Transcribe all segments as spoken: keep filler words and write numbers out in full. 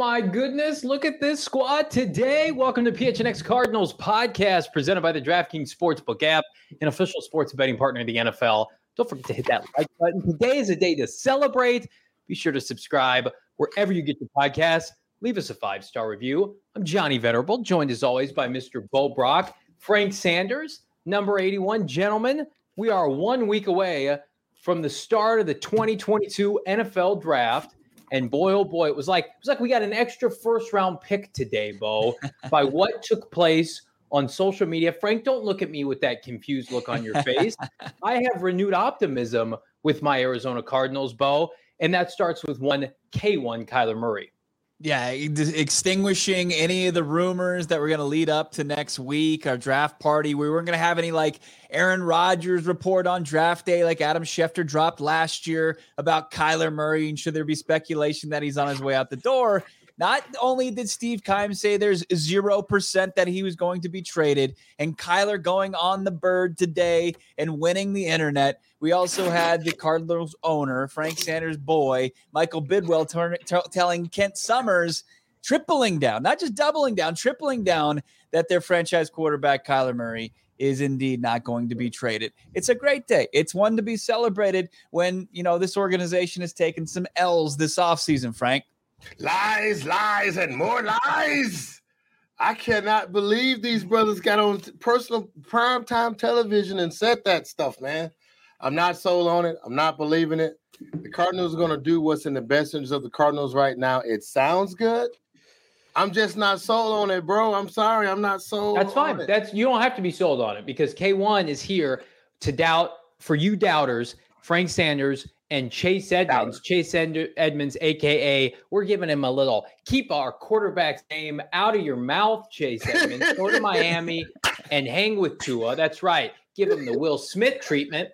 my goodness. Look at this squad today. Welcome to P H N X Cardinals podcast presented by the DraftKings Sportsbook app, an official sports betting partner of the N F L. Don't forget to hit that like button. Today is a day to celebrate. Be sure to subscribe wherever you get your podcasts. Leave us a five-star review. I'm Johnny Venerable, joined as always by Mister Bo Brock, Frank Sanders, number eighty-one. Gentlemen, we are one week away from the start of the twenty twenty-two N F L Draft. And boy, oh boy, it was like it was like we got an extra first-round pick today, Bo, by what took place on social media. Frank, don't look at me with that confused look on your face. I have renewed optimism with my Arizona Cardinals, Bo, and that starts with one K one Kyler Murray. Yeah, extinguishing any of the rumors that were going to lead up to next week, our draft party. We weren't going to have any like Aaron Rodgers report on draft day like Adam Schefter dropped last year about Kyler Murray. And should there be speculation that he's on his way out the door? Not only did Steve Keim say there's zero percent that he was going to be traded, and Kyler going on the bird today and winning the internet, we also had the Cardinals owner, Frank Sanders' boy, Michael Bidwell, turn, t- telling Kent Summers, tripling down, not just doubling down, tripling down, that their franchise quarterback, Kyler Murray, is indeed not going to be traded. It's a great day. It's one to be celebrated when, you know, this organization has taken some L's this offseason, Frank. Lies, lies, and more lies. I cannot believe these brothers got on personal primetime television and said that stuff, man. I'm not sold on it. I'm not believing it. The Cardinals are going to do what's in the best interest of the Cardinals right now. It sounds good. I'm just not sold on it, bro. I'm sorry. I'm not sold That's fine. on it. That's you don't have to be sold on it because K one is here to doubt for you doubters, Frank Sanders and Chase Edmonds, Chase Ed- Edmonds, a k a we're giving him a little, keep our quarterback's name out of your mouth, Chase Edmonds. Go to Miami and hang with Tua. That's right. Give him the Will Smith treatment.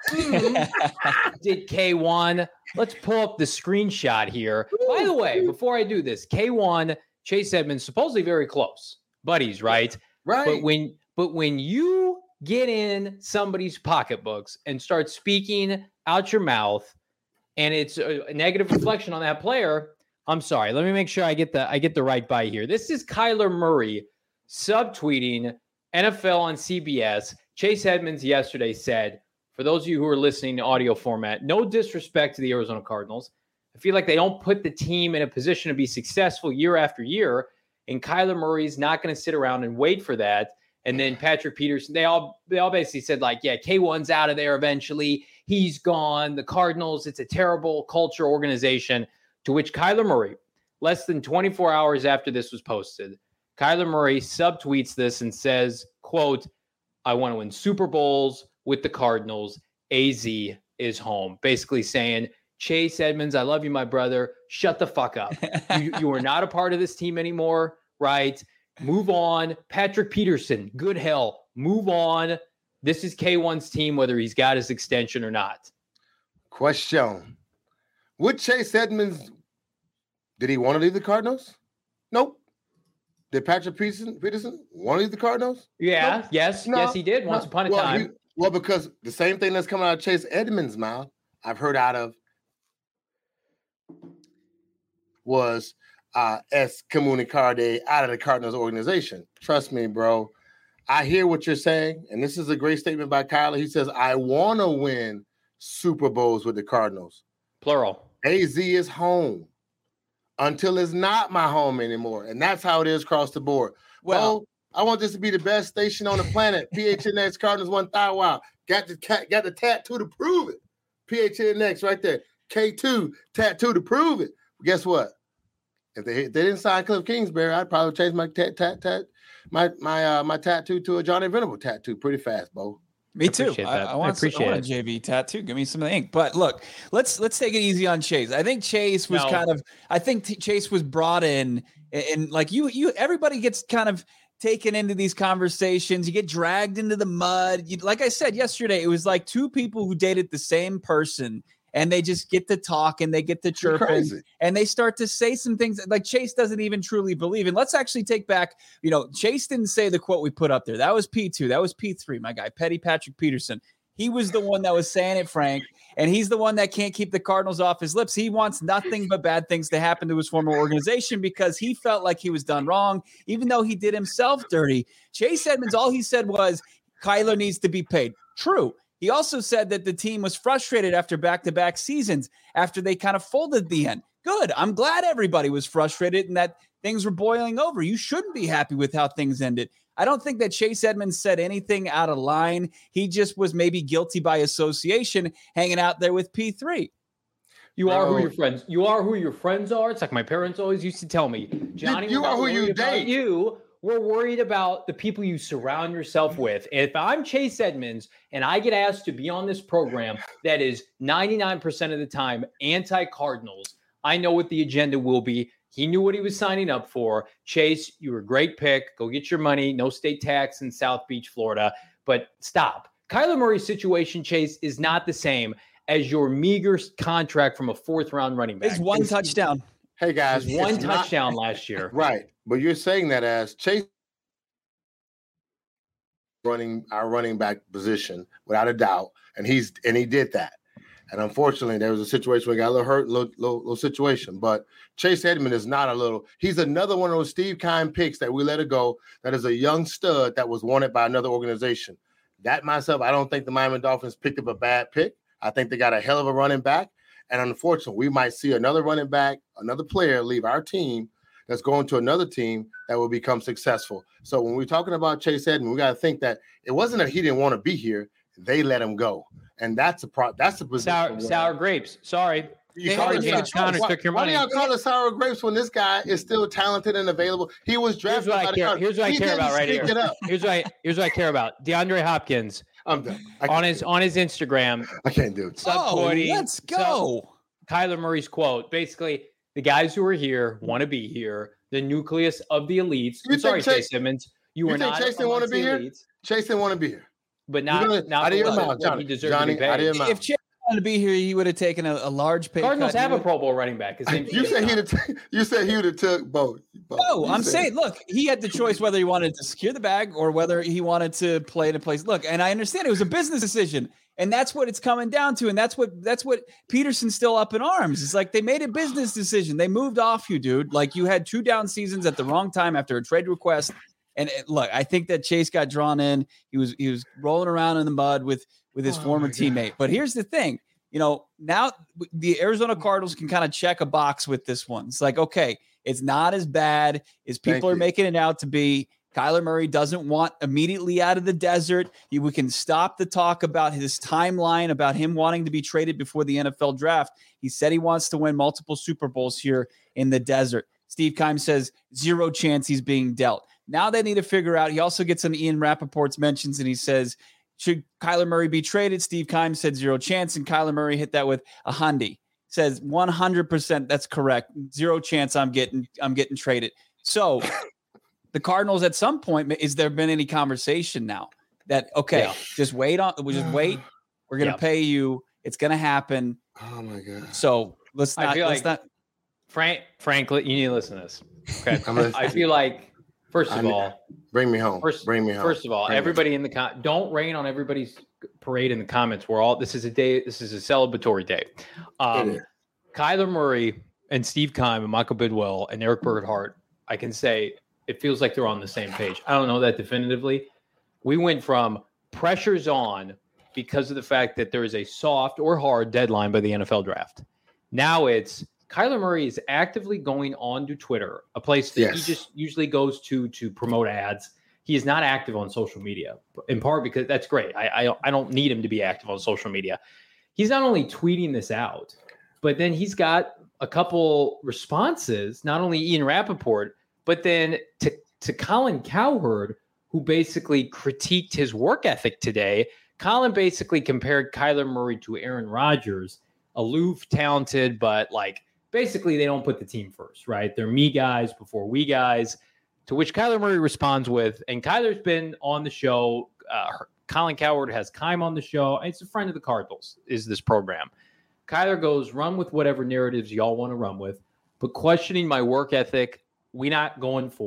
Did K one. Let's pull up the screenshot here. By the way, before I do this, K one, Chase Edmonds, supposedly very close. Buddies, right? Right. But when, but when you get in somebody's pocketbooks and start speaking out your mouth, and it's a negative reflection on that player, I'm sorry. Let me make sure I get the I get the right buy here. This is Kyler Murray subtweeting N F L on C B S. Chase Edmonds yesterday said, for those of you who are listening to audio format, no disrespect to the Arizona Cardinals. I feel like they don't put the team in a position to be successful year after year, and Kyler Murray's not going to sit around and wait for that. And then Patrick Peterson, they all they all basically said, like, yeah, K one's out of there eventually. He's gone. The Cardinals, it's a terrible culture organization. To which Kyler Murray, less than twenty-four hours after this was posted, Kyler Murray subtweets this and says, quote, I want to win Super Bowls with the Cardinals. A Z is home. Basically saying, Chase Edmonds, I love you, my brother. Shut the fuck up. you, you are not a part of this team anymore, right? Move on. Patrick Peterson, good hell. Move on. This is K one's team, whether he's got his extension or not. Question. Would Chase Edmonds, did he want to leave the Cardinals? Nope. Did Patrick Peterson, Peterson want to leave the Cardinals? Yeah, nope. yes, no, yes, he did once no. upon a well, time. He, well, because the same thing that's coming out of Chase Edmonds' mouth, I've heard out of, was uh, excommunicado out of the Cardinals organization. Trust me, bro. I hear what you're saying, and this is a great statement by Kyler. He says, I want to win Super Bowls with the Cardinals. Plural. A Z is home until it's not my home anymore, and that's how it is across the board. Well, well I want this to be the best station on the planet. P H N X Cardinals one thousand. Wow. Got the, got the tattoo to prove it. P H N X right there. K two tattoo to prove it. But guess what? If they, if they didn't sign Cliff Kingsbury, I'd probably change my tat tat tat my my uh, my tattoo to a Johnny Venable tattoo pretty fast, Bo. Me too. I, I, want, I appreciate I want a J V tattoo. Give me some of the ink. But look, let's let's take it easy on Chase. I think Chase was no. kind of. I think t- Chase was brought in, and, and like you, you, everybody gets kind of taken into these conversations. You get dragged into the mud. You, like I said yesterday, it was like two people who dated the same person. And they just get to talk and they get to chirping and they start to say some things like Chase doesn't even truly believe. And let's actually take back, you know, Chase didn't say the quote we put up there. That was P two. That was P three, my guy, Petty Patrick Peterson. He was the one that was saying it, Frank, and he's the one that can't keep the Cardinals off his lips. He wants nothing but bad things to happen to his former organization because he felt like he was done wrong, even though he did himself dirty. Chase Edmonds, all he said was Kyler needs to be paid. True. He also said that the team was frustrated after back-to-back seasons, after they kind of folded at the end. Good. I'm glad everybody was frustrated and that things were boiling over. You shouldn't be happy with how things ended. I don't think that Chase Edmonds said anything out of line. He just was maybe guilty by association hanging out there with P three. You Bro. are who your friends. You are who your friends are. It's like my parents always used to tell me, Johnny, you, you are who you date. You, we're worried about the people you surround yourself with. If I'm Chase Edmonds and I get asked to be on this program that is ninety-nine percent of the time anti-Cardinals, I know what the agenda will be. He knew what he was signing up for. Chase, you were a great pick. Go get your money. No state tax in South Beach, Florida. But stop. Kyler Murray's situation, Chase, is not the same as your meager contract from a fourth-round running back. It's one it's, touchdown. Hey, guys. It's one it's touchdown not, last year. Right. But you're saying that as Chase running our running back position, without a doubt. And he's and he did that. And unfortunately, there was a situation where he got a little hurt, little, little, little situation. But Chase Edmonds is not a little. He's another one of those Steve Keim picks that we let it go. That is a young stud that was wanted by another organization. That myself, I don't think the Miami Dolphins picked up a bad pick. I think they got a hell of a running back. And unfortunately, we might see another running back, another player leave our team that's going to another team that will become successful. So when we're talking about Chase Edmonds, we got to think that it wasn't that he didn't want to be here. They let him go. And that's a pro. That's a sour, sour grapes. Sorry, you call it James Conner took your money. Why do y'all call it sour grapes when this guy is still talented and available? He was drafted. Here's what I care. Here's what I care about right here. Here's what I. Here's what I care about. DeAndre Hopkins. I'm done. On his on his Instagram. I can't do it. Oh, let's go. Kyler Murray's quote. Basically, the guys who are here want to be here. The nucleus of the elites. I'm sorry, Chase, Chase Edmonds. You, you were not. Chase didn't want to be here. Elites. Chase didn't want to be here. But not, gonna, not out of your mouth, Johnny. He deserved Johnny, to be paid. If Chase wanted to be here, he would have taken a, a large pay Cardinals cut. have a Pro Bowl running back. His name's you said he'd have. T- you said he would have took both. both. No, you I'm said. saying, look, he had the choice whether he wanted to secure the bag or whether he wanted to play in a place. Look, and I understand it was a business decision, and that's what it's coming down to, and that's what that's what Peterson's still up in arms. It's like they made a business decision. They moved off you, dude. Like you had two down seasons at the wrong time after a trade request. And it, look, I think that Chase got drawn in. He was he was rolling around in the mud with with his oh former teammate. But here's the thing, you know, now the Arizona Cardinals can kind of check a box with this one. It's like, okay, it's not as bad as people Thank are you. making it out to be. Kyler Murray doesn't want immediately out of the desert. We can stop the talk about his timeline, about him wanting to be traded before the N F L draft. He said he wants to win multiple Super Bowls here in the desert. Steve Keim says zero chance he's being dealt. Now they need to figure out. He also gets on Ian Rappaport's mentions, and he says, should Kyler Murray be traded? Steve Keim said zero chance, and Kyler Murray hit that with a Hyundai. Says one hundred percent that's correct. Zero chance I'm getting I'm getting traded. So the Cardinals at some point, is there been any conversation now that, okay, yeah. just wait on, we just wait. We're going to yeah. pay you. It's going to happen. Oh, my God. So let's not. I feel let's like, not. Frank, frankly, you need to listen to this. Okay. I feel like, First of all, bring me home. First, bring me home. First of all, bring everybody in the con- don't rain on everybody's parade in the comments. We're all this is a day. This is a celebratory day. Um, Kyler Murray and Steve Keim and Michael Bidwell and Eric Burkhart. I can say it feels like they're on the same page. I don't know that definitively. We went from pressures on because of the fact that there is a soft or hard deadline by the N F L draft. Now it's Kyler Murray is actively going on to Twitter, a place that yes. he just usually goes to to promote ads. He is not active on social media, in part because that's great. I, I I don't need him to be active on social media. He's not only tweeting this out, but then he's got a couple responses, not only Ian Rappaport, but then to, to Colin Cowherd, who basically critiqued his work ethic today. Colin basically compared Kyler Murray to Aaron Rodgers, aloof, talented, but like, basically, they don't put the team first, right? They're me guys before we guys, to which Kyler Murray responds with, and Kyler's been on the show. Uh, Colin Cowherd has Keim on the show. It's a friend of the Cardinals, is this program. Kyler goes, run with whatever narratives y'all want to run with, but questioning my work ethic, we not going for.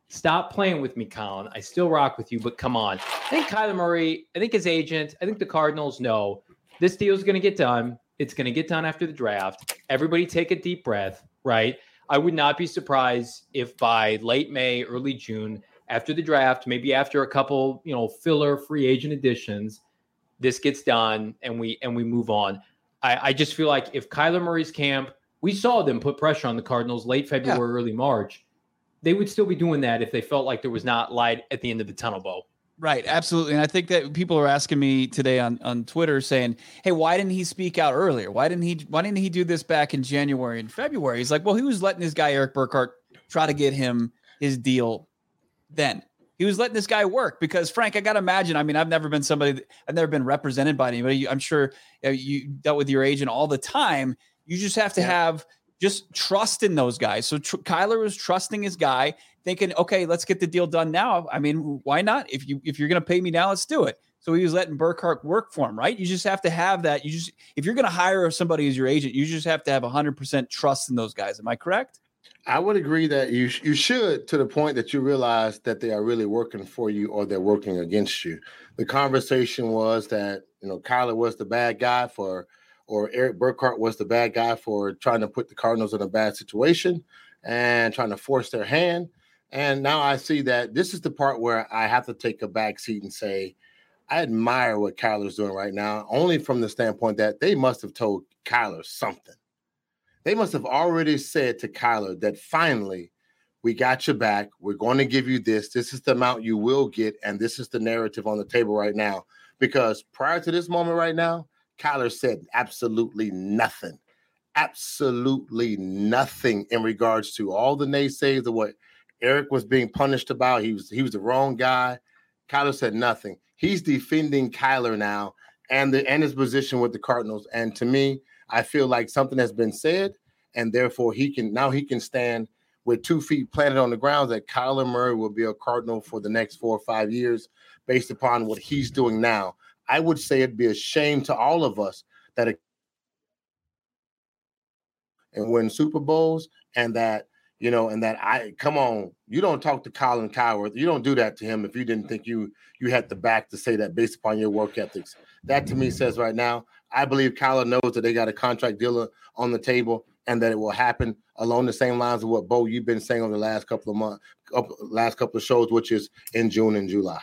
Stop playing with me, Colin. I still rock with you, but come on. I think Kyler Murray, I think his agent, I think the Cardinals know this deal is going to get done. It's going to get done after the draft. Everybody take a deep breath, right? I would not be surprised if by late May, early June, after the draft, maybe after a couple, you know, filler free agent additions, this gets done and we and we move on. I, I just feel like if Kyler Murray's camp, we saw them put pressure on the Cardinals late February, yeah. early March. They would still be doing that if they felt like there was not light at the end of the tunnel, Bo. Right, absolutely. And I think that people are asking me today on, on Twitter saying, hey, why didn't he speak out earlier? Why didn't he why didn't he do this back in January and February? He's like, well, he was letting this guy, Erik Burkhardt, try to get him his deal then. He was letting this guy work because, Frank, I got to imagine, I mean, I've never been somebody, that, I've never been represented by anybody. I'm sure you dealt with your agent all the time. You just have to yeah. have just trust in those guys. So tr- Kyler was trusting his guy, thinking, okay, let's get the deal done now. I mean, why not? If you, if you're going to pay me now, let's do it. So he was letting Burkhardt work for him, right? You just have to have that. You just, if you're going to hire somebody as your agent, you just have to have one hundred percent trust in those guys. Am I correct? I would agree that you you should, to the point that you realize that they are really working for you or they're working against you. The conversation was that, you know, Kyler was the bad guy for, or Erik Burkhardt was the bad guy for trying to put the Cardinals in a bad situation and trying to force their hand. And now I see that this is the part where I have to take a back seat and say, I admire what Kyler's doing right now, only from the standpoint that they must have told Kyler something. They must have already said to Kyler that finally, we got your back. We're going to give you this. This is the amount you will get. And this is the narrative on the table right now. Because prior to this moment right now, Kyler said absolutely nothing. Absolutely nothing in regards to all the naysayers of what Erik was being punished about. He was, he was the wrong guy. Kyler said nothing. He's defending Kyler now and, the, and his position with the Cardinals. And to me, I feel like something has been said, and therefore he can now he can stand with two feet planted on the ground that Kyler Murray will be a Cardinal for the next four or five years based upon what he's doing now. I would say it'd be a shame to all of us that it and win Super Bowls and that, you know, and that I come on, you don't talk to Colin Cowherd. You don't do that to him if you didn't think you you had the back to say that based upon your work ethics. That to me says right now, I believe Kyler knows that they got a contract deal on the table and that it will happen along the same lines of what, Bo, you've been saying over the last couple of months, last couple of shows, which is in June and July.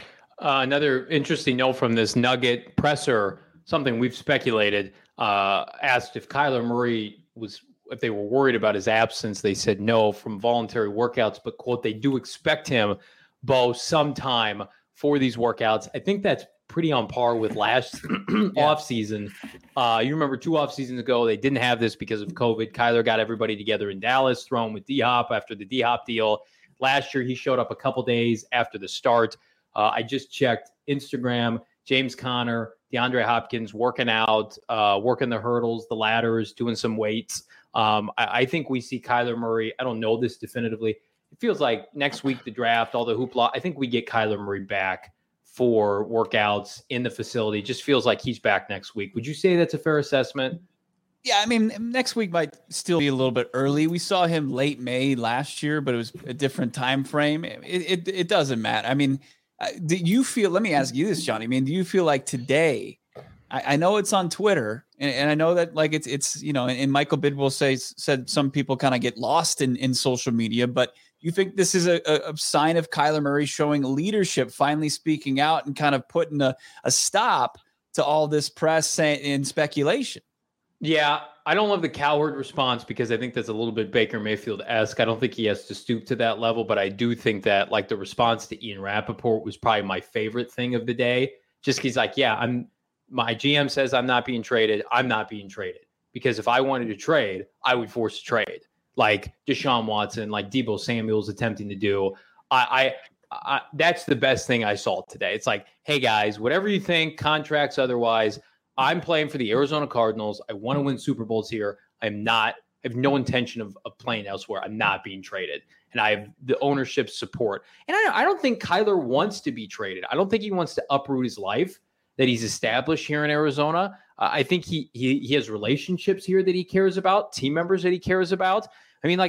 Uh, another interesting note from this Nugget presser, something we've speculated, uh, asked if Kyler Murray was, if they were worried about his absence. They said no from voluntary workouts, but quote, they do expect him, Bo, sometime for these workouts. I think that's pretty on par with last yeah. off season. Uh, you remember two off seasons ago, they didn't have this because of COVID. Kyler got everybody together in Dallas, thrown with D-Hop after the D-Hop deal. Last year, he showed up a couple days after the start. Uh, I just checked Instagram, James Conner, DeAndre Hopkins working out, uh, working the hurdles, the ladders, doing some weights. Um, I, I think we see Kyler Murray. I don't know this definitively. It feels like next week, the draft, all the hoopla, I think we get Kyler Murray back for workouts in the facility. Just feels like he's back next week. Would you say that's a fair assessment? Yeah, I mean, next week might still be a little bit early. We saw him late May last year, but it was a different time frame. It it, it doesn't matter. I mean, do you feel, let me ask you this, Johnny. I mean, do you feel like today, I, I know it's on Twitter, and, and I know that like it's, it's you know, and, and Michael Bidwell says, said some people kind of get lost in, in social media, but you think this is a, a sign of Kyler Murray showing leadership, finally speaking out and kind of putting a, a stop to all this press and speculation? Yeah, I don't love the Cowherd response because I think that's a little bit Baker Mayfield-esque. I don't think he has to stoop to that level, but I do think that like the response to Ian Rappaport was probably my favorite thing of the day. Just he's like, yeah, I'm my G M says I'm not being traded. I'm not being traded because if I wanted to trade, I would force a trade. Like Deshaun Watson, like Deebo Samuel's attempting to do. I, I, I, that's the best thing I saw today. It's like, hey guys, whatever you think, contracts otherwise, I'm playing for the Arizona Cardinals. I want to win Super Bowls here. I'm not, I have no intention of, of playing elsewhere. I'm not being traded. And I have the ownership support. And I, I don't think Kyler wants to be traded. I don't think he wants to uproot his life that he's established here in Arizona. Uh, I think he, he he has relationships here that he cares about, team members that he cares about. I mean, like,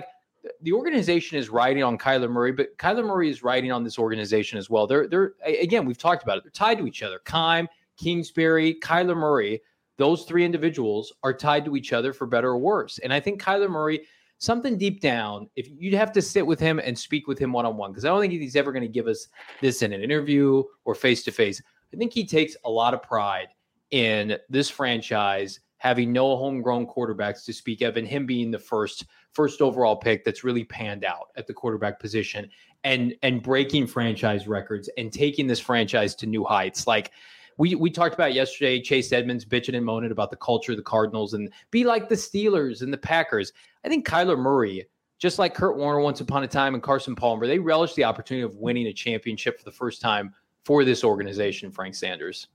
the organization is riding on Kyler Murray, but Kyler Murray is riding on this organization as well. They're, they're again, we've talked about it. They're tied to each other. Keim, Kingsbury, Kyler Murray, those three individuals are tied to each other for better or worse. And I think Kyler Murray, something deep down, if you'd have to sit with him and speak with him one-on-one, because I don't think he's ever going to give us this in an interview or face-to-face. I think he takes a lot of pride in this franchise having no homegrown quarterbacks to speak of, and him being the first first overall pick that's really panned out at the quarterback position and and breaking franchise records and taking this franchise to new heights. Like we we talked about yesterday, Chase Edmonds bitching and moaning about the culture of the Cardinals and be like the Steelers and the Packers. I think Kyler Murray, just like Kurt Warner once upon a time and Carson Palmer, they relish the opportunity of winning a championship for the first time for this organization, Frank Sanders.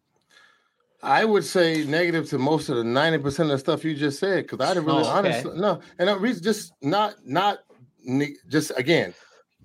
I would say negative to most of the ninety percent of the stuff you just said, because I didn't really, oh, okay. honestly, no. And the reason, just not, not, just again,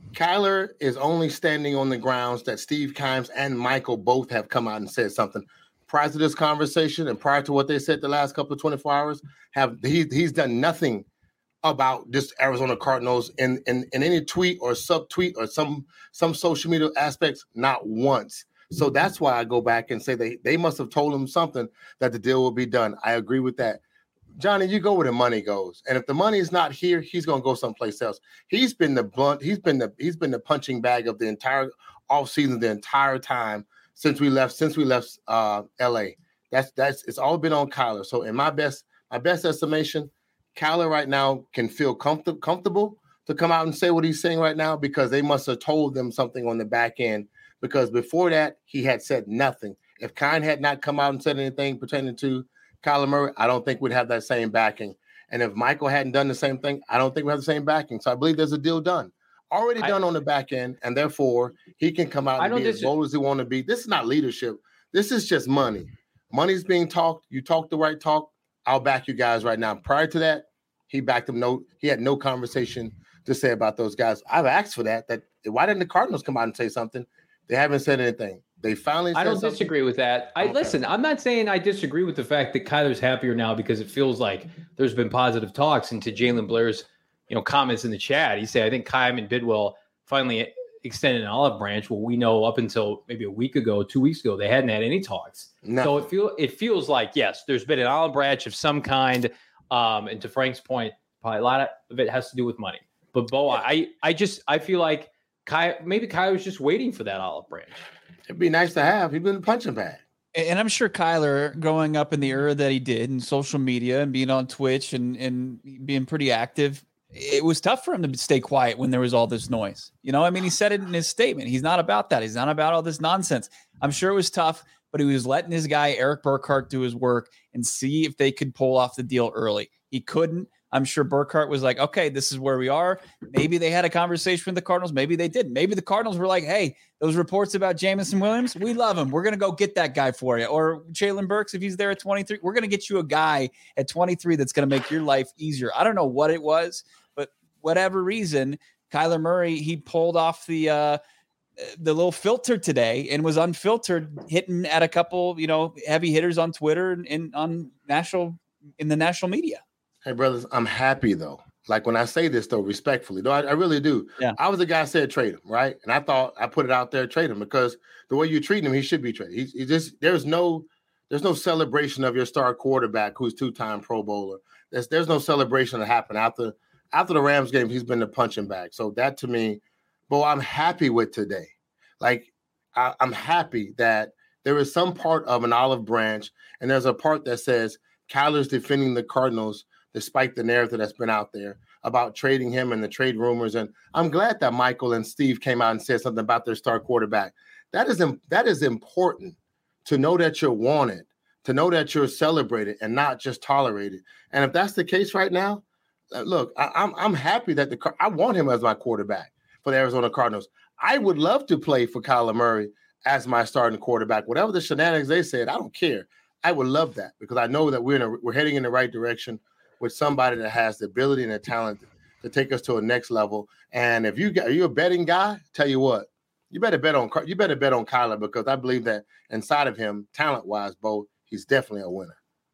Kyler is only standing on the grounds that Steve Keim and Michael both have come out and said something. Prior to this conversation and prior to what they said the last couple of twenty-four hours, have he, he's done nothing about this Arizona Cardinals in, in, in any tweet or sub-tweet or some, some social media aspects, not once. So that's why I go back and say they, they must have told him something that the deal will be done. I agree with that. Johnny, you go where the money goes. And if the money is not here, he's going to go someplace else. He's been the blunt. He's been the he's been the punching bag of the entire offseason, the entire time since we left, since we left uh, L A. That's that's it's all been on Kyler. So in my best, my best estimation, Kyler right now can feel comfort, comfortable to come out and say what he's saying right now, because they must have told them something on the back end. Because before that, he had said nothing. If Keim had not come out and said anything pertaining to Kyler Murray, I don't think we'd have that same backing. And if Michael hadn't done the same thing, I don't think we have the same backing. So I believe there's a deal done, already done I, on the back end, and therefore he can come out and be as bold as he want to be. This is not leadership. This is just money. Money's being talked. You talk the right talk. I'll back you guys right now. Prior to that, he backed him. No, he had no conversation to say about those guys. I've asked for that. That why didn't the Cardinals come out and say something? They haven't said anything. They finally said I don't something. disagree with that. I okay. Listen, I'm not saying I disagree with the fact that Kyler's happier now because it feels like there's been positive talks. And to Jalen Blair's, you know, comments in the chat, he said, I think Keim and Bidwell finally extended an olive branch. Well, we know up until maybe a week ago, two weeks ago, they hadn't had any talks. No. So it feel it feels like, yes, there's been an olive branch of some kind. Um, and to Frank's point, probably a lot of it has to do with money. But Bo, yeah. I I just I feel like Ky, maybe Kyler was just waiting for that olive branch. It'd be nice to have. He's been a punching bag. And I'm sure Kyler, growing up in the era that he did in social media and being on Twitch and, and being pretty active, it was tough for him to stay quiet when there was all this noise. You know, I mean, he said it in his statement. He's not about that. He's not about all this nonsense. I'm sure it was tough, but he was letting his guy, Eric Burkhart, do his work and see if they could pull off the deal early. He couldn't. I'm sure Burkhart was like, okay, this is where we are. Maybe they had a conversation with the Cardinals. Maybe they didn't. Maybe the Cardinals were like, hey, those reports about Jameson Williams, we love him. We're going to go get that guy for you. Or Jalen Burks, if he's there at twenty-three, we're going to get you a guy at twenty-three that's going to make your life easier. I don't know what it was, but whatever reason, Kyler Murray, he pulled off the uh, the little filter today and was unfiltered, hitting at a couple, you know, heavy hitters on Twitter and, and on national in the national media. Hey, brothers, I'm happy, though. Like, when I say this, though, respectfully, though, I, I really do. Yeah. I was the guy who said trade him, right? And I thought I put it out there, trade him, because the way you treat him, he should be traded. He, he just there's no there's no celebration of your star quarterback who's two-time Pro Bowler. There's there's no celebration that happened after after the Rams game. He's been the punching bag. So that to me, well, I'm happy with today. Like, I, I'm happy that there is some part of an olive branch, and there's a part that says Kyler's defending the Cardinals despite the narrative that's been out there about trading him and the trade rumors. And I'm glad that Michael and Steve came out and said something about their star quarterback. That is, that is important to know that you're wanted, to know that you're celebrated and not just tolerated. And if that's the case right now, look, I, I'm I'm happy that the I want him as my quarterback for the Arizona Cardinals. I would love to play for Kyler Murray as my starting quarterback. Whatever the shenanigans they said, I don't care. I would love that because I know that we're in a, we're heading in the right direction with somebody that has the ability and the talent to take us to a next level. And if you are you a betting guy, tell you what, you better bet on you better bet on Kyler, because I believe that inside of him, talent-wise, Bo, he's definitely a winner.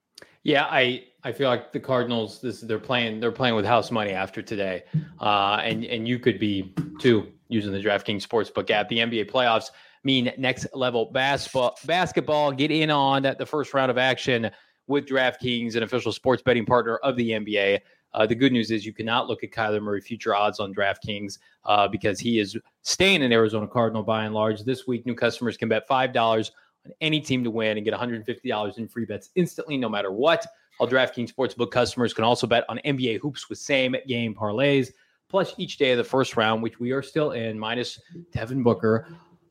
Yeah, I, I feel like the Cardinals, this they're playing they're playing with house money after today, uh, and and you could be too using the DraftKings Sportsbook app. The N B A playoffs mean next level basketball. Basketball. Get in on that the first round of action with DraftKings, an official sports betting partner of the N B A. Uh, the good news is you cannot look at Kyler Murray future odds on DraftKings uh, because he is staying an Arizona Cardinal by and large. This week, new customers can bet five dollars on any team to win and get one hundred fifty dollars in free bets instantly, no matter what. All DraftKings Sportsbook customers can also bet on N B A hoops with same-game parlays. Plus, each day of the first round, which we are still in, minus Devin Booker,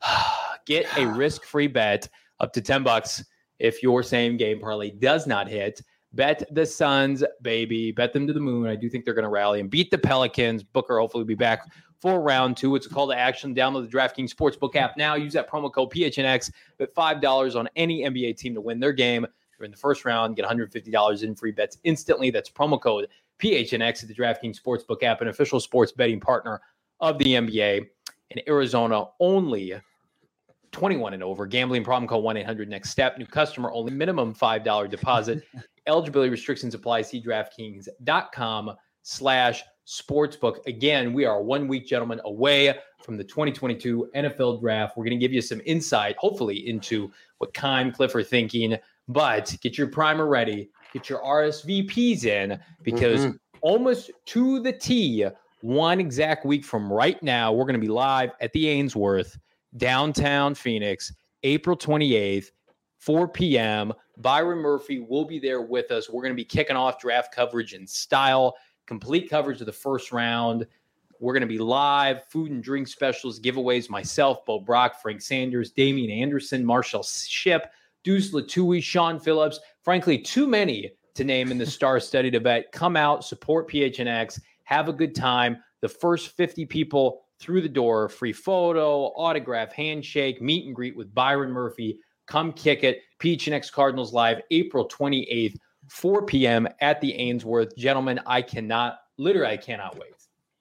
get a risk-free bet up to ten bucks if your same-game parlay does not hit. Bet the Suns, baby. Bet them to the moon. I do think they're going to rally and beat the Pelicans. Booker hopefully will be back for round two. It's a call to action. Download the DraftKings Sportsbook app now. Use that promo code P H N X. Bet five dollars on any N B A team to win their game. If you're in the first round, get one hundred fifty dollars in free bets instantly. That's promo code P H N X at the DraftKings Sportsbook app, an official sports betting partner of the N B A. In Arizona, only twenty-one and over. Gambling problem, call one eight hundred next step. New customer only. Minimum five dollars deposit. Eligibility restrictions apply. See DraftKings.com slash sportsbook. Again, we are one week, gentlemen, away from the twenty twenty-two N F L draft. We're going to give you some insight, hopefully, into what Kyle and Cliff are thinking. But get your primer ready. Get your R S V Ps in because mm-hmm. almost to the T, one exact week from right now, we're going to be live at the Ainsworth, downtown Phoenix, April twenty-eighth, four p.m. Byron Murphy will be there with us. We're going to be kicking off draft coverage in style, complete coverage of the first round. We're going to be live, food and drink specials, giveaways, myself, Bo Brock, Frank Sanders, Damian Anderson, Marshall Shipp, Deuce Latui, Sean Phillips. Frankly, too many to name in the star-studded event. Come out, support P H N X, have a good time. The first fifty people through the door, free photo, autograph, handshake, meet and greet with Byron Murphy. Come kick it. P H N X Cardinals Live, April twenty-eighth, four p.m. at the Ainsworth. Gentlemen, I cannot, literally, I cannot wait.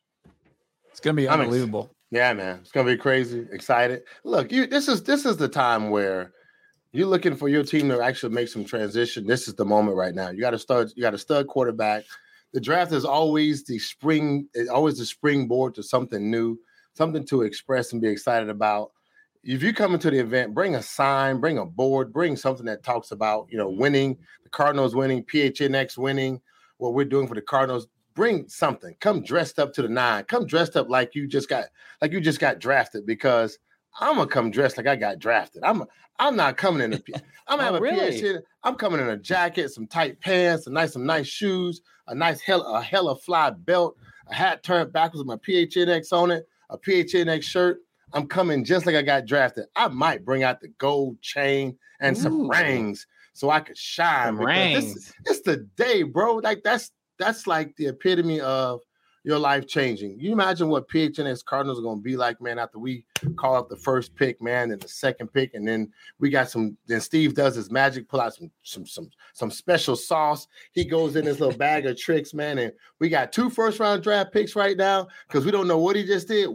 It's going to be unbelievable. Yeah, man. It's going to be crazy. Excited. Look, you. This is this is the time where you're looking for your team to actually make some transition. This is the moment right now. You got to start. You got a stud quarterback. The draft is always the spring, always the springboard to something new, something to express and be excited about. If you come into the event, bring a sign, bring a board, bring something that talks about, you know, winning, the Cardinals winning, P H N X winning, what we're doing for the Cardinals. Bring something. Come dressed up to the nine. Come dressed up like you just got, like you just got drafted. Because I'm gonna come dressed like I got drafted. I'm, I'm not coming in a. I'm gonna have oh, a really? P H N. I'm coming in a jacket, some tight pants, a nice, some nice shoes, a nice hell, a hella fly belt, a hat turned backwards with my P H N X on it, a P H N X shirt. I'm coming just like I got drafted. I might bring out the gold chain and Ooh. some rings so I could shine. Rings. This, it's the day, bro. Like that's that's like the epitome of your life changing. You imagine what P H N X Cardinals are going to be like, man, after we call up the first pick, man, and the second pick, and then we got some. Then Steve does his magic, pull out some some some some special sauce. He goes in his little bag of tricks, man, and we got two first round draft picks right now because we don't know what he just did.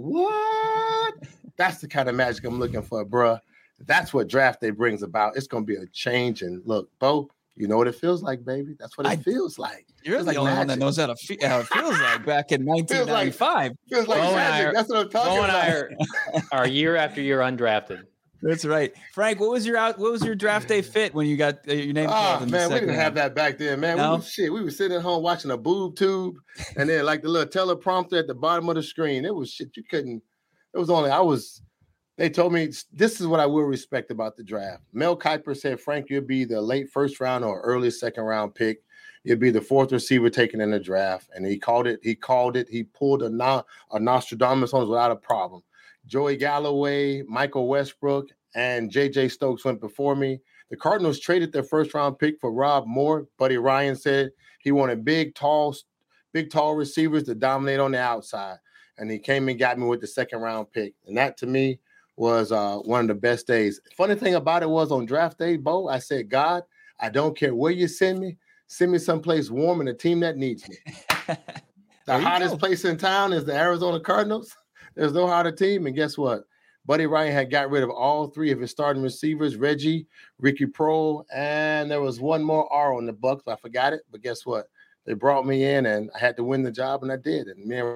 What? That's the kind of magic I'm looking for, bruh. That's what draft day brings about. It's going to be a change. And look, Bo, you know what it feels like, baby. That's what it I, feels like. You're the like only magic. one that knows how, to fe- how it feels like back in nineteen ninety-five. Feels like, feels like magic. Are, That's what I'm talking about. Are, are year after year undrafted. That's right, Frank. What was your out? What was your draft day fit when you got uh, your name? Oh man, we didn't round? have that back then, man. No? We was, shit, we were sitting at home watching a boob tube, and then like the little teleprompter at the bottom of the screen. It was shit. You couldn't. It was only I was. They told me this is what I will respect about the draft. Mel Kiper said, Frank, you'll be the late first round or early second round pick. You'll be the fourth receiver taken in the draft. And he called it. He called it. He pulled a, no, a Nostradamus on us without a problem. Joey Galloway, Michael Westbrook, and J J Stokes went before me. The Cardinals traded their first round pick for Rob Moore. Buddy Ryan said he wanted big, tall, big, tall receivers to dominate on the outside. And he came and got me with the second round pick. And that to me was uh, one of the best days. Funny thing about it was on draft day, Bo, I said, God, I don't care where you send me. Send me someplace warm and a team that needs me. The hottest go. place in town is the Arizona Cardinals. There's no hotter team. And guess what? Buddy Ryan had got rid of all three of his starting receivers, Reggie, Ricky Proehl, and there was one more R on the Bucs. I forgot it, but guess what? They brought me in, and I had to win the job, and I did. And me and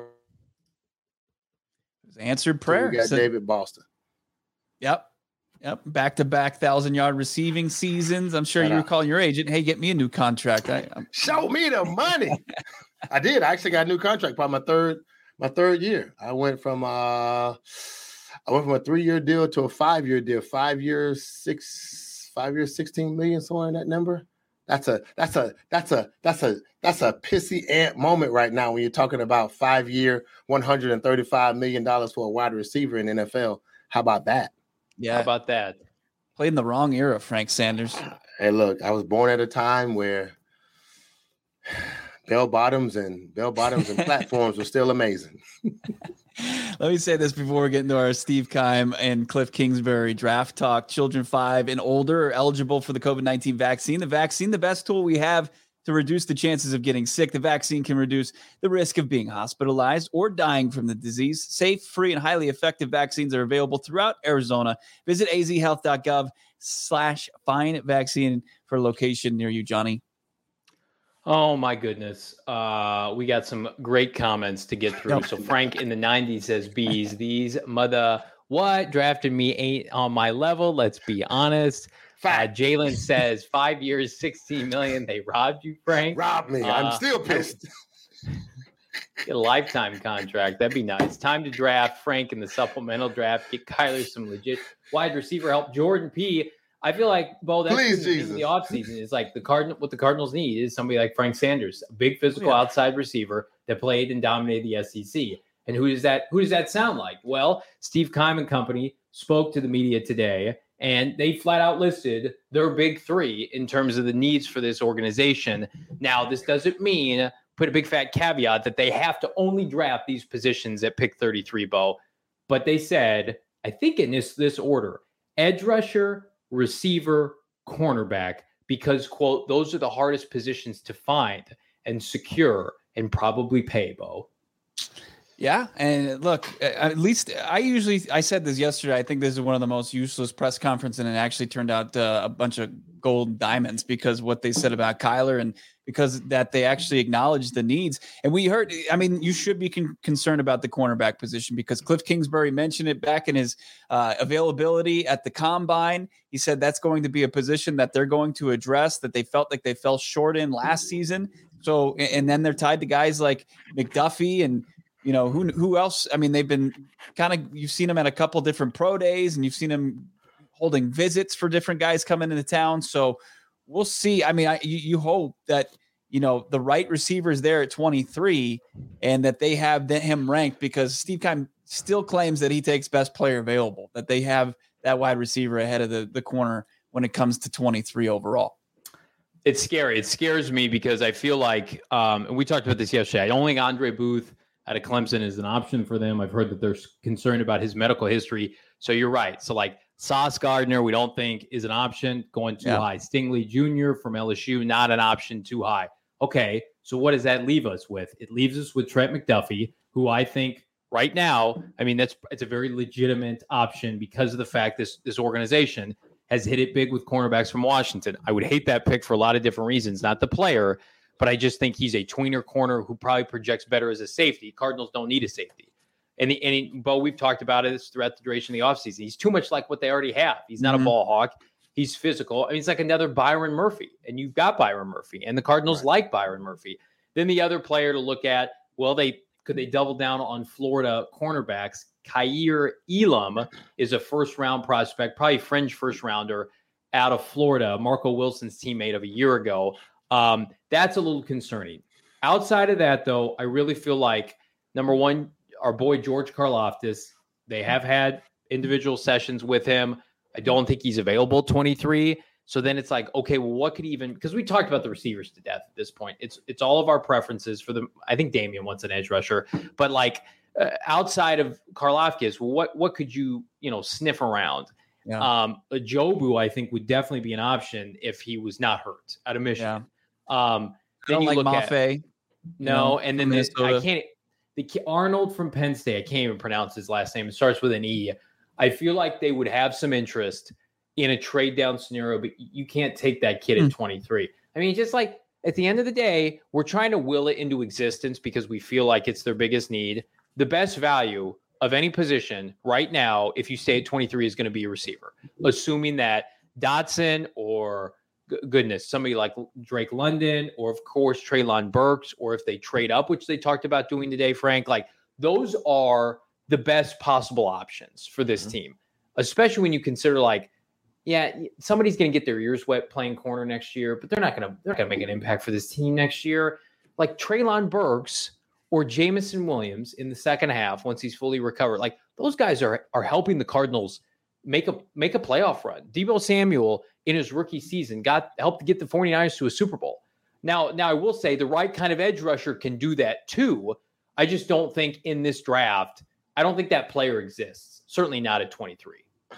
answered prayer. So we got so, David Boston. Yep. Yep. Back-to-back thousand-yard receiving seasons. I'm sure you were calling your agent, hey, get me a new contract. I, Show me the money. I did. I actually got a new contract by my third my third year. I went from uh, I went from a three-year deal to a five-year deal. Five years, six, five years, sixteen million, somewhere in that number. That's a that's a that's a that's a that's a pissy ant moment right now when you're talking about five-year, one hundred thirty-five million dollars for a wide receiver in the N F L. How about that? Yeah. How about that? Played in the wrong era, Frank Sanders. Hey, look, I was born at a time where bell bottoms and bell bottoms and platforms were still amazing. Let me say this before we get into our Steve Keim and Cliff Kingsbury draft talk. Children five and older are eligible for the COVID nineteen vaccine. The vaccine, the best tool we have to reduce the chances of getting sick. The vaccine can reduce the risk of being hospitalized or dying from the disease. Safe, free, and highly effective vaccines are available throughout Arizona. Visit azhealth.gov slash find vaccine for a location near you, Johnny. Oh, my goodness. Uh, we got some great comments to get through. So Frank in the nineties says, bees, these mother what drafted me ain't on my level. Let's be honest. Uh, Jalen says five years, sixteen million. They robbed you, Frank. Robbed me. I'm uh, still pissed. Get a lifetime contract. That'd be nice. Time to draft Frank in the supplemental draft. Get Kyler some legit wide receiver help. Jordan P. I feel like, Bo, that's Please, in, in the offseason. It's like the Cardinal. What the Cardinals need is somebody like Frank Sanders, a big physical yeah. outside receiver that played and dominated the S E C. And who does that? Who does that sound like? Well, Steve Keim and company spoke to the media today. And they flat out listed their big three in terms of the needs for this organization. Now, this doesn't mean, put a big fat caveat, that they have to only draft these positions at pick thirty-three, Bo. But they said, I think in this, this order, edge rusher, receiver, cornerback, because, quote, those are the hardest positions to find and secure and probably pay, Bo. Yeah, and look, at least I usually, I said this yesterday, I think this is one of the most useless press conferences, and it actually turned out uh, a bunch of gold diamonds because what they said about Kyler and because that they actually acknowledged the needs. And we heard, I mean, you should be con- concerned about the cornerback position because Cliff Kingsbury mentioned it back in his uh, availability at the Combine. He said that's going to be a position that they're going to address, that they felt like they fell short in last season. So, and then they're tied to guys like McDuffie and, you know, who who else? I mean, they've been kind of, you've seen them at a couple different pro days and you've seen them holding visits for different guys coming into town. So we'll see. I mean, I, you, you hope that, you know, the right receiver is there at twenty-three and that they have him ranked because Steve Keim still claims that he takes best player available, that they have that wide receiver ahead of the, the corner when it comes to twenty-three overall. It's scary. It scares me because I feel like, um, and we talked about this yesterday, I don't think Andre Booth out of Clemson is an option for them. I've heard that they're concerned about his medical history. So you're right. So like Sauce Gardner, we don't think is an option going too yeah. high. Stingley Junior from L S U, not an option too high. Okay. So what does that leave us with? It leaves us with Trent McDuffie, who I think right now, I mean, that's, it's a very legitimate option because of the fact this, this organization has hit it big with cornerbacks from Washington. I would hate that pick for a lot of different reasons, not the player, but I just think he's a tweener corner who probably projects better as a safety. Cardinals don't need a safety. And, the, and he, Bo, we've talked about it throughout the duration of the offseason. He's too much like what they already have. He's not mm-hmm. a ball hawk. He's physical. I mean, it's like another Byron Murphy. And you've got Byron Murphy. And the Cardinals right. like Byron Murphy. Then the other player to look at, well, they could they double down on Florida cornerbacks? Kaiir Elam is a first-round prospect, probably fringe first-rounder out of Florida, Marco Wilson's teammate of a year ago. Um, that's a little concerning. Outside of that, though, I really feel like, number one, our boy George Karlaftis, they have had individual sessions with him. I don't think he's available at twenty-three. So then it's like, okay, well, what could even – because we talked about the receivers to death at this point. It's it's all of our preferences for the – I think Damian wants an edge rusher. But, like, uh, outside of Karlaftis, what what could you, you know, sniff around? Yeah. Um, Ajobu, I think, would definitely be an option if he was not hurt out of Michigan. Yeah. Um, then you like look Mafe, at no, know, and then this, I can't. The Arnold from Penn State, I can't even pronounce his last name. It starts with an E. I feel like they would have some interest in a trade down scenario, but you can't take that kid at twenty-three. I mean, just like at the end of the day, we're trying to will it into existence because we feel like it's their biggest need. The best value of any position right now, if you stay at twenty-three, is going to be a receiver, assuming that Dotson or g- goodness, somebody like Drake London, or of course, Treylon Burks, or if they trade up, which they talked about doing today, Frank, like those are the best possible options for this mm-hmm. team, especially when you consider like, yeah, somebody's going to get their ears wet playing corner next year, but they're not going to they're going to make an impact for this team next year. Like Treylon Burks or Jameson Williams in the second half once he's fully recovered. Like those guys are are helping the Cardinals make a make a playoff run. Deebo Samuel in his rookie season got helped to get the 49ers to a Super Bowl. Now, now I will say the right kind of edge rusher can do that too. I just don't think in this draft, I don't think that player exists. Certainly not at twenty-three.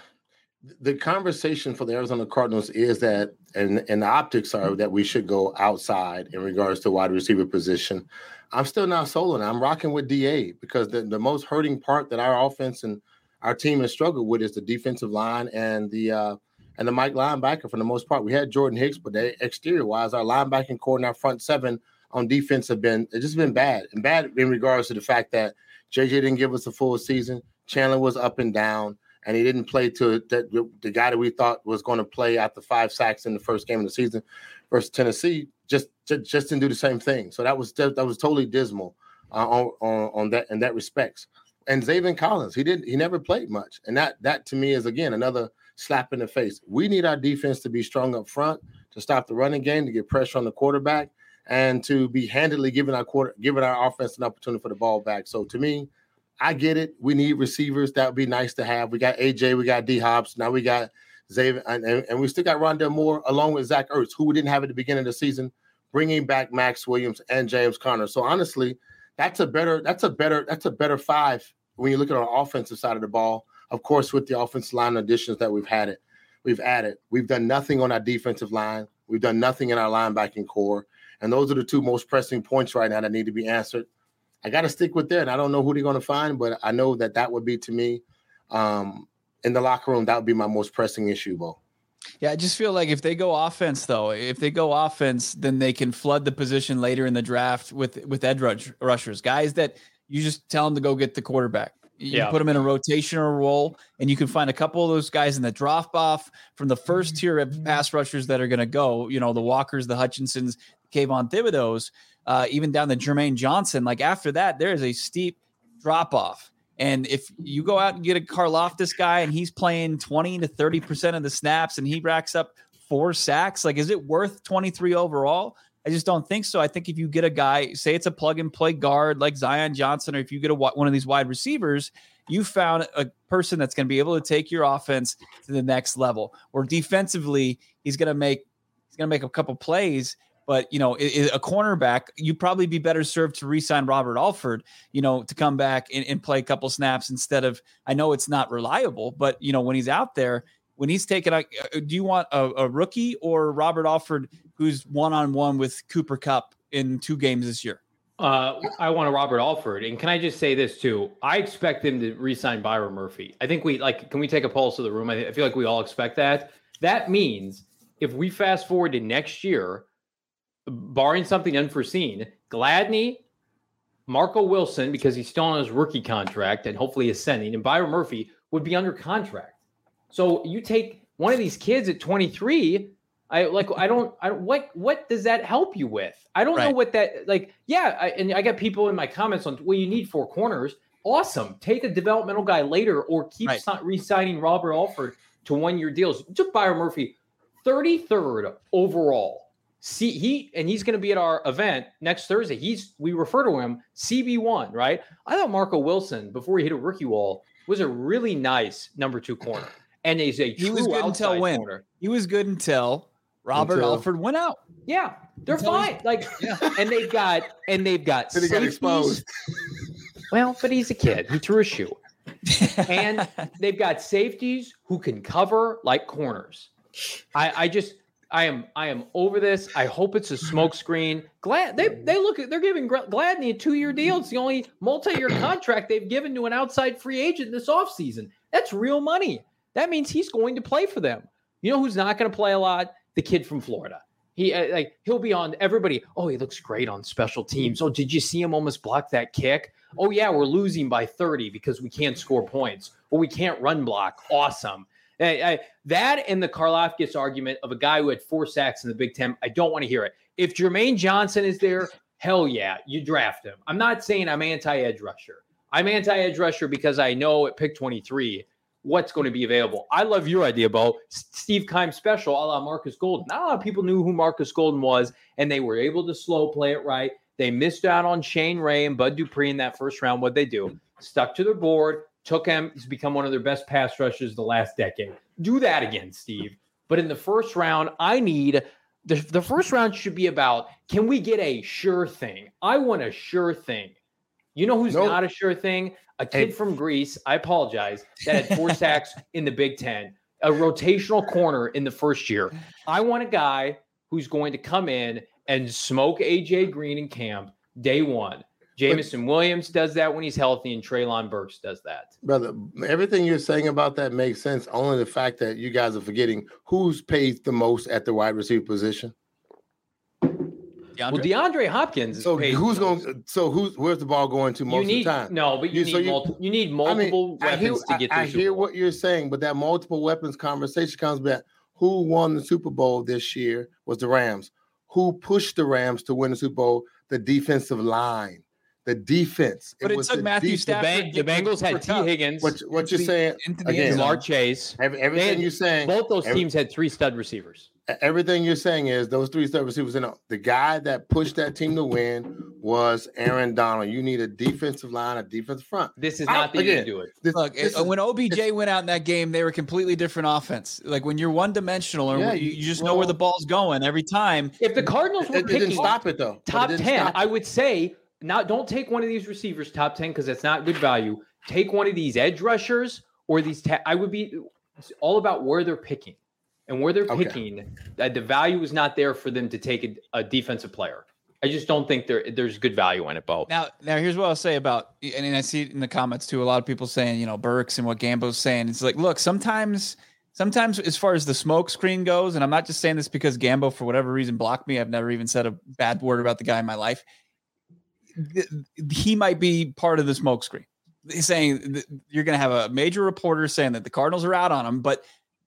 The conversation for the Arizona Cardinals is that, and, and the optics are that we should go outside in regards to wide receiver position. I'm still not sold on it. I'm rocking with D A because the, the most hurting part that our offense and our team has struggled with is the defensive line and the uh, and the Mike linebacker for the most part. We had Jordan Hicks, but they, exterior-wise, our linebacking core and our front seven on defense have been it's just been bad. And bad in regards to the fact that J J didn't give us a full season. Chandler was up and down. And he didn't play to the, the guy that we thought was going to play after five sacks in the first game of the season versus Tennessee. Just, just, just didn't do the same thing. So that was that was totally dismal uh, on, on on that in that respects. And Zaven Collins, he didn't he never played much, and that that to me is again another slap in the face. We need our defense to be strong up front to stop the running game, to get pressure on the quarterback, and to be handily giving our quarter giving our offense an opportunity for the ball back. So to me, I get it. We need receivers. That would be nice to have. We got A J. We got D Hobbs. Now we got Xavier. And, and, and we still got Rondell Moore along with Zach Ertz, who we didn't have at the beginning of the season, bringing back Max Williams and James Conner. So honestly, that's a better, that's a better, that's a better five when you look at our offensive side of the ball. Of course, with the offensive line additions that we've had it, we've added. We've done nothing on our defensive line. We've done nothing in our linebacking core. And those are the two most pressing points right now that need to be answered. I got to stick with that. And I don't know who they're going to find, but I know that that would be, to me, um, in the locker room, that would be my most pressing issue, Bo. Yeah, I just feel like if they go offense, though, if they go offense, then they can flood the position later in the draft with, with edge rush, rushers, guys that you just tell them to go get the quarterback. You yeah. put them in a rotational role, and you can find a couple of those guys in the drop off from the first tier of pass rushers that are going to go, you know, the Walkers, the Hutchinsons, Kayvon Thibodeau's, uh, even down to Jermaine Johnson. Like after that, there is a steep drop off. And if you go out and get a Karlaftis guy and he's playing twenty to thirty percent of the snaps and he racks up four sacks, like, is it worth twenty-three overall? I just don't think so. I think if you get a guy, say it's a plug and play guard like Zion Johnson, or if you get a, one of these wide receivers, you found a person that's going to be able to take your offense to the next level. Or defensively, he's going to make he's going to make a couple plays. But, you know, a cornerback, you'd probably be better served to re-sign Robert Alford, you know, to come back and, and play a couple snaps instead of, I know it's not reliable, but, you know, when he's out there, when he's taken out, do you want a, a rookie or Robert Alford who's one-on-one with Cooper Kupp in two games this year? Uh, I want a Robert Alford. And can I just say this too? I expect them to re-sign Byron Murphy. I think we like, can we take a pulse of the room? I, I feel like we all expect that. That means if we fast forward to next year, barring something unforeseen, Gladney, Marco Wilson, because he's still on his rookie contract and hopefully ascending, and Byron Murphy would be under contract. So you take one of these kids at twenty-three, I like, I don't, I what, what does that help you with? I don't right. know what that, like, yeah. I, and I got people in my comments on, well, you need four corners. Awesome. Take a developmental guy later or keep right. re-signing Robert Alford to one-year deals. Took Byron Murphy thirty-third overall. See, he and he's going to be at our event next Thursday. He's we refer to him C B one, right? I thought Marco Wilson, before he hit a rookie wall, was a really nice number two corner, and he's a true he was good outside until when corner. He was good until Robert until, Alford went out. Yeah, they're until fine. Like, yeah. and they've got and they've got. Then he got exposed. Well, but he's a kid. He threw a shoe, and they've got safeties who can cover like corners. I, I just. I am I am over this. I hope it's a smokescreen. Glad they they look at they're giving Gladney a two-year deal. It's the only multi-year contract they've given to an outside free agent this offseason. That's real money. That means he's going to play for them. You know who's not going to play a lot? The kid from Florida. He uh, like he'll be on everybody. Oh, he looks great on special teams. Oh, did you see him almost block that kick? Oh, yeah, we're losing by thirty because we can't score points or we can't run block. Awesome. I, I, that and the Karlaftis argument of a guy who had four sacks in the Big Ten, I don't want to hear it. If Jermaine Johnson is there, hell yeah, you draft him. I'm not saying I'm anti-edge rusher. I'm anti-edge rusher because I know at pick twenty-three what's going to be available. I love your idea, Bo. Steve Keim special, a la Marcus Golden. Not a lot of people knew who Marcus Golden was, and they were able to slow play it right. They missed out on Shane Ray and Bud Dupree in that first round. What'd they do? Stuck to their board, took him to become one of their best pass rushers the last decade. Do that again, Steve. But in the first round, I need the, the first round should be about, can we get a sure thing? I want a sure thing. You know who's nope. not a sure thing? A kid hey. from Greece, I apologize, that had four sacks in the Big Ten, a rotational corner in the first year. I want a guy who's going to come in and smoke A J Green in camp day one. Jameson Williams does that when he's healthy, and Treylon Burks does that. Brother, everything you're saying about that makes sense. Only the fact that you guys are forgetting who's paid the most at the wide receiver position. DeAndre? Well, DeAndre Hopkins. So who's going? So who's where's the ball going to most you need, of the time? No, but you, you need so you, multiple. You need multiple I mean, weapons I hear, to get. I, I Super hear Bowl. what you're saying, but that multiple weapons conversation comes back. Who won the Super Bowl this year was the Rams. Who pushed the Rams to win the Super Bowl? The defensive line. The defense. But it, it took Matthew de- Stafford. The, Bang- the Bengals had T. Higgins. What, what you're saying? Again, Jamar Chase. Every, everything had, you're saying. Both those every, teams had three stud receivers. Everything you're saying is those three stud receivers. You know, the guy that pushed that team to win was Aaron Donald. You need a defensive line, a defensive front. This is not I, the again, year to do it. This, Look, this it, is, when O B J went out in that game, they were completely different offense. Like when you're one dimensional, or yeah, you, you just well, know where the ball's going every time. If the Cardinals were it, picking it didn't stop it though. Top it ten, I would say. Not don't take one of these receivers top ten because that's not good value. Take one of these edge rushers or these. Ta- I would be it's all about where they're picking and where they're okay. picking. That the value is not there for them to take a, a defensive player. I just don't think there there's good value in it, Bo. Now, now here's what I'll say about, and I see it in the comments too. A lot of people saying, you know, Burks and what Gambo's saying. It's like, look, sometimes. Sometimes as far as the smoke screen goes, and I'm not just saying this because Gambo, for whatever reason, blocked me. I've never even said a bad word about the guy in my life. He might be part of the smokescreen. He's saying you're going to have a major reporter saying that the Cardinals are out on him, but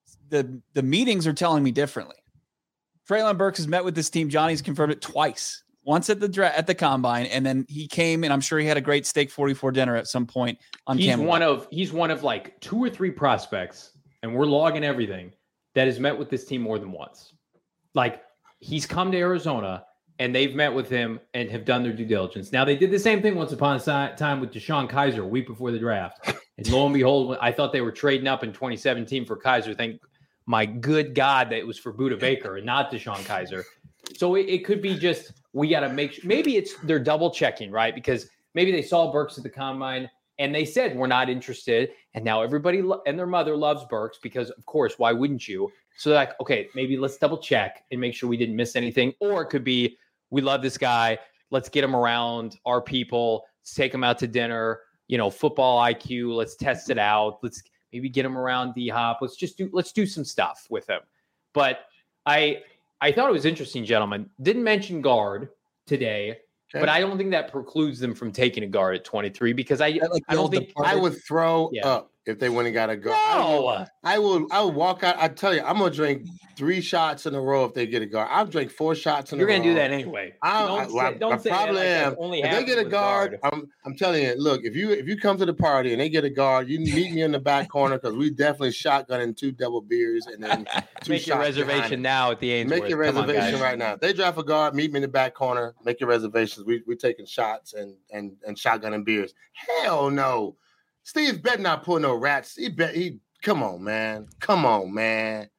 the the meetings are telling me differently. Treylon Burks has met with this team. Johnny's confirmed it twice. Once at the dra- at the combine, and then he came, and I'm sure he had a great steak forty-four dinner at some point on he's camera. One of he's one of like two or three prospects, and we're logging everything that has met with this team more than once. Like he's come to Arizona. And they've met with him and have done their due diligence. Now, they did the same thing once upon a time with Deshaun Kaiser a week before the draft. And lo and behold, I thought they were trading up in twenty seventeen for Kaiser. Thank my good God that it was for Budda Baker and not Deshaun Kaiser. So it, it could be just we got to make sure. Maybe it's they're double checking, right? Because maybe they saw Burks at the combine and they said, we're not interested. And now everybody lo- and their mother loves Burks because, of course, why wouldn't you? So they're like, okay, maybe let's double check and make sure we didn't miss anything. Or it could be, we love this guy. Let's get him around our people. Let's take him out to dinner. You know, football I Q. Let's test it out. Let's maybe get him around D-Hop. Let's just do. Let's do some stuff with him. But I, I thought it was interesting, gentlemen. Didn't mention guard today, okay. But I don't think that precludes them from taking a guard at twenty-three because I, I, like I don't think departed. I would throw yeah. up if they went and got a guard. No. I will. I will walk out. I tell you, I'm gonna drink three shots in a row if they get a guard. I'll drink four shots in You're a row. You're gonna do that anyway. I, don't I, say, I, don't I say probably like am. Only if they get a guard, guard, I'm. I'm telling you. Look, if you if you come to the party and they get a guard, you meet me in the back corner because we definitely shotgunning two double beers and then two make your reservation now at the Ainsworth. Make your reservation on, right now. If they draft a guard, meet me in the back corner. Make your reservations. We we taking shots and and and shotgunning beers. Hell no. Steve better not pull no rats. He bet he. Come on, man. Come on, man.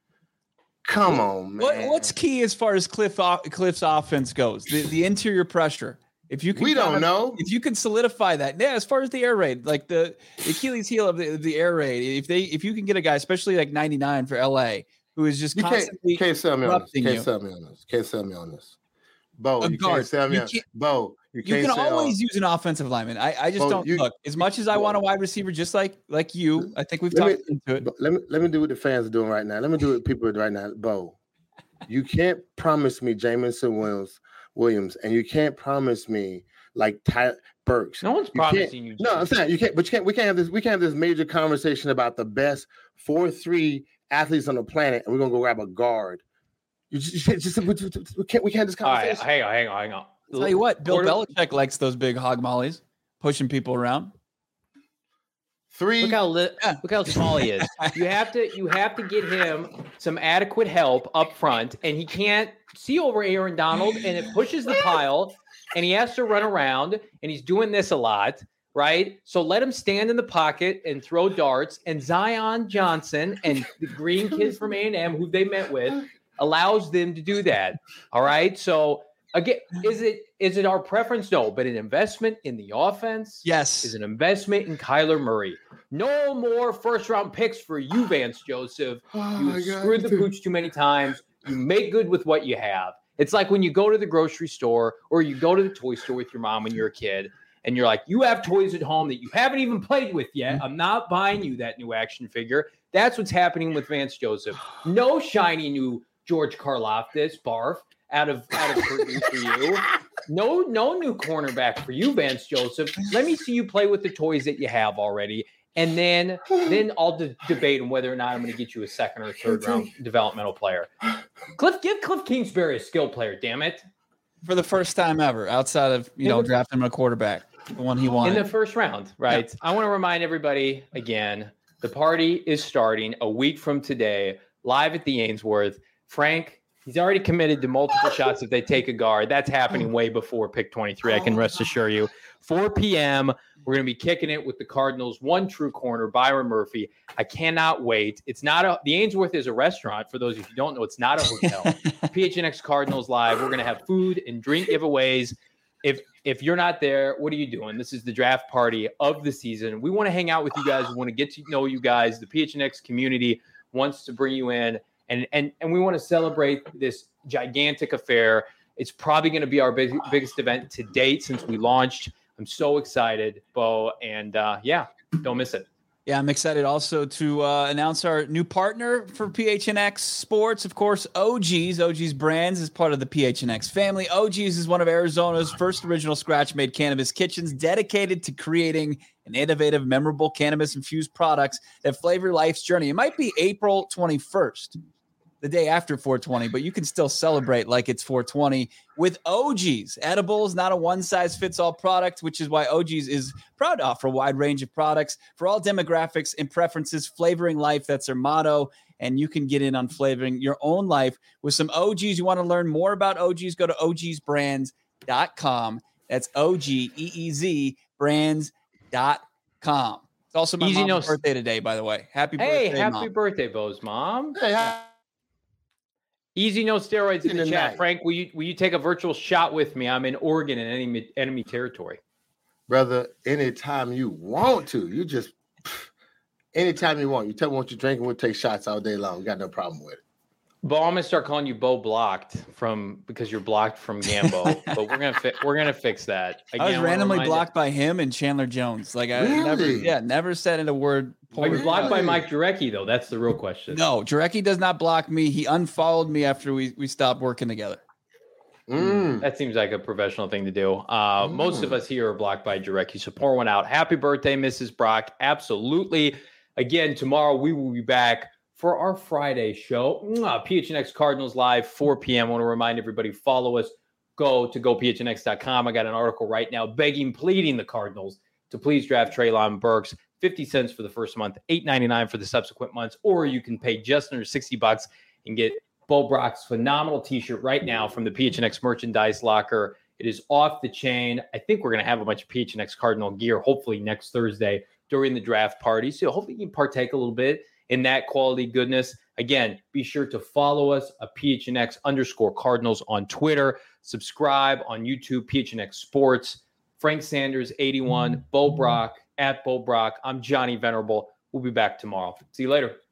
Come on, man. What, what's key as far as Cliff Cliff's offense goes? The, the interior pressure. If you can, we don't of, know. If you can solidify that, yeah. As far as the air raid, like the, the Achilles heel of the, the air raid, if they if you can get a guy, especially like ninety-nine for L A, who is just you constantly can't, can't sell me on this. Can't you. sell me on this. Can't sell me on this. Bo, a you guard. can't sell me. You a- can't- Bo, you You can't can sell. always use an offensive lineman. I, I just Bo, don't you- look as much as I Bo, want a wide receiver, just like like you. I think we've Let me- talked into it. Bo, let me let me do what the fans are doing right now. Let me do what people are doing right now. Bo, you can't promise me Jamison Williams, Williams, and you can't promise me like Ty Burks. No one's You can't- promising you. No, I'm saying you can't. But you can't. We can't have this. We can't have this major conversation about the best four three athletes on the planet, and we're gonna go grab a guard. You just, you just we, we can't. We can't have this All right, conversation. hang on, hang on, hang on. I'll tell you what, Bill Quarter- Belichick likes those big hog mollies, pushing people around. Three. Look how li- Yeah. look how small he is. You have to you have to get him some adequate help up front, and he can't see over Aaron Donald, and it pushes the pile, and he has to run around, and he's doing this a lot, right? So let him stand in the pocket and throw darts, and Zion Johnson and the green kid from A and M, who they met with, allows them to do that. All right, so. Again, is it is it our preference? No, but an investment in the offense Yes. is an investment in Kyler Murray. No more first round picks for you, Vance Joseph. Oh You my have God. screwed the pooch too many times. You make good with what you have. It's like when you go to the grocery store or you go to the toy store with your mom when you're a kid, and you're like, you have toys at home that you haven't even played with yet. I'm not buying you that new action figure. That's what's happening with Vance Joseph. No shiny new George Karlaftis, barf. Out of out of Purdue for you, no no new cornerback for you, Vance Joseph. Let me see you play with the toys that you have already, and then then I'll de- debate on whether or not I'm going to get you a second or third round developmental player. Cliff, give Cliff Kingsbury a skill player, damn it, For the first time ever, outside of you In know the- drafting him a quarterback, the one he in wanted. the first round, right? I want to remind everybody again: the party is starting a week from today, live at the Ainsworth. Frank. He's already committed to multiple shots if they take a guard. That's happening way before pick twenty-three, I can rest assure you. four p.m., we're going to be kicking it with the Cardinals' one true corner, Byron Murphy. I cannot wait. It's not a – the Ainsworth is a restaurant. For those of you who don't know, it's not a hotel. P H N X Cardinals Live. We're going to have food and drink giveaways. If if you're not there, what are you doing? This is the draft party of the season. We want to hang out with you guys. We want to get to know you guys. The P H N X community wants to bring you in. And, and and we want to celebrate this gigantic affair. It's probably going to be our big, biggest event to date since we launched. I'm so excited, Bo. And uh, yeah, don't miss it. Yeah, I'm excited also to uh, announce our new partner for P H N X Sports. Of course, O G's. O G's Brands is part of the P H N X family. O G's is one of Arizona's first original scratch-made cannabis kitchens dedicated to creating an innovative, memorable cannabis-infused products that flavor life's journey. It might be April twenty-first, the day after four twenty, but you can still celebrate like it's four twenty with O G's. Edibles, not a one-size-fits-all product, which is why O G's is proud to offer a wide range of products for all demographics and preferences. Flavoring life, that's their motto, and you can get in on flavoring your own life with some O G's. You want to learn more about O G's, go to O G's brands dot com. That's O G E E Z brands dot com. It's also my Easy mom's no- birthday today, by the way. Happy Hey, birthday, happy Mom. birthday, Bo's mom. Hey, hi. Easy, no steroids in the In the chat. night. Frank, will you will you take a virtual shot with me? I'm in Oregon in enemy enemy territory. Brother, anytime you want to, you just anytime you want. You tell me what you're drinking, we'll take shots all day long. We got no problem with it. Bo, I'm gonna start calling you Bo Blocked from because you're blocked from Gambo. But we're gonna fi- we're gonna fix that. Again, I was wanna randomly remind you- blocked by him and Chandler Jones. Like I Really? never, yeah, never said in a word. Are you poor- blocked by Really? Mike Jurecki though? That's the real question. No, Jarecki does not block me. He unfollowed me after we we stopped working together. Mm. That seems like a professional thing to do. Uh, Mm. Most of us here are blocked by Jurecki, so pour one out. Happy birthday, Missus Brock. Absolutely. Again, tomorrow we will be back for our Friday show. Mwah. P H N X Cardinals Live, four p.m. I want to remind everybody, follow us. Go to go P H N X dot com. I got an article right now begging, pleading the Cardinals to please draft Treylon Burks. fifty cents for the first month, eight ninety-nine for the subsequent months, or you can pay just under sixty bucks and get Bo Brock's phenomenal t-shirt right now from the P H N X merchandise locker. It is off the chain. I think we're going to have a bunch of P H N X Cardinal gear, hopefully next Thursday during the draft party. So hopefully you can partake a little bit in that quality goodness. Again, be sure to follow us, a P H N X underscore Cardinals on Twitter. Subscribe on YouTube, P H N X Sports. Frank Sanders, eighty-one, Bo Brock, at Bo Brock. I'm Johnny Venerable. We'll be back tomorrow. See you later.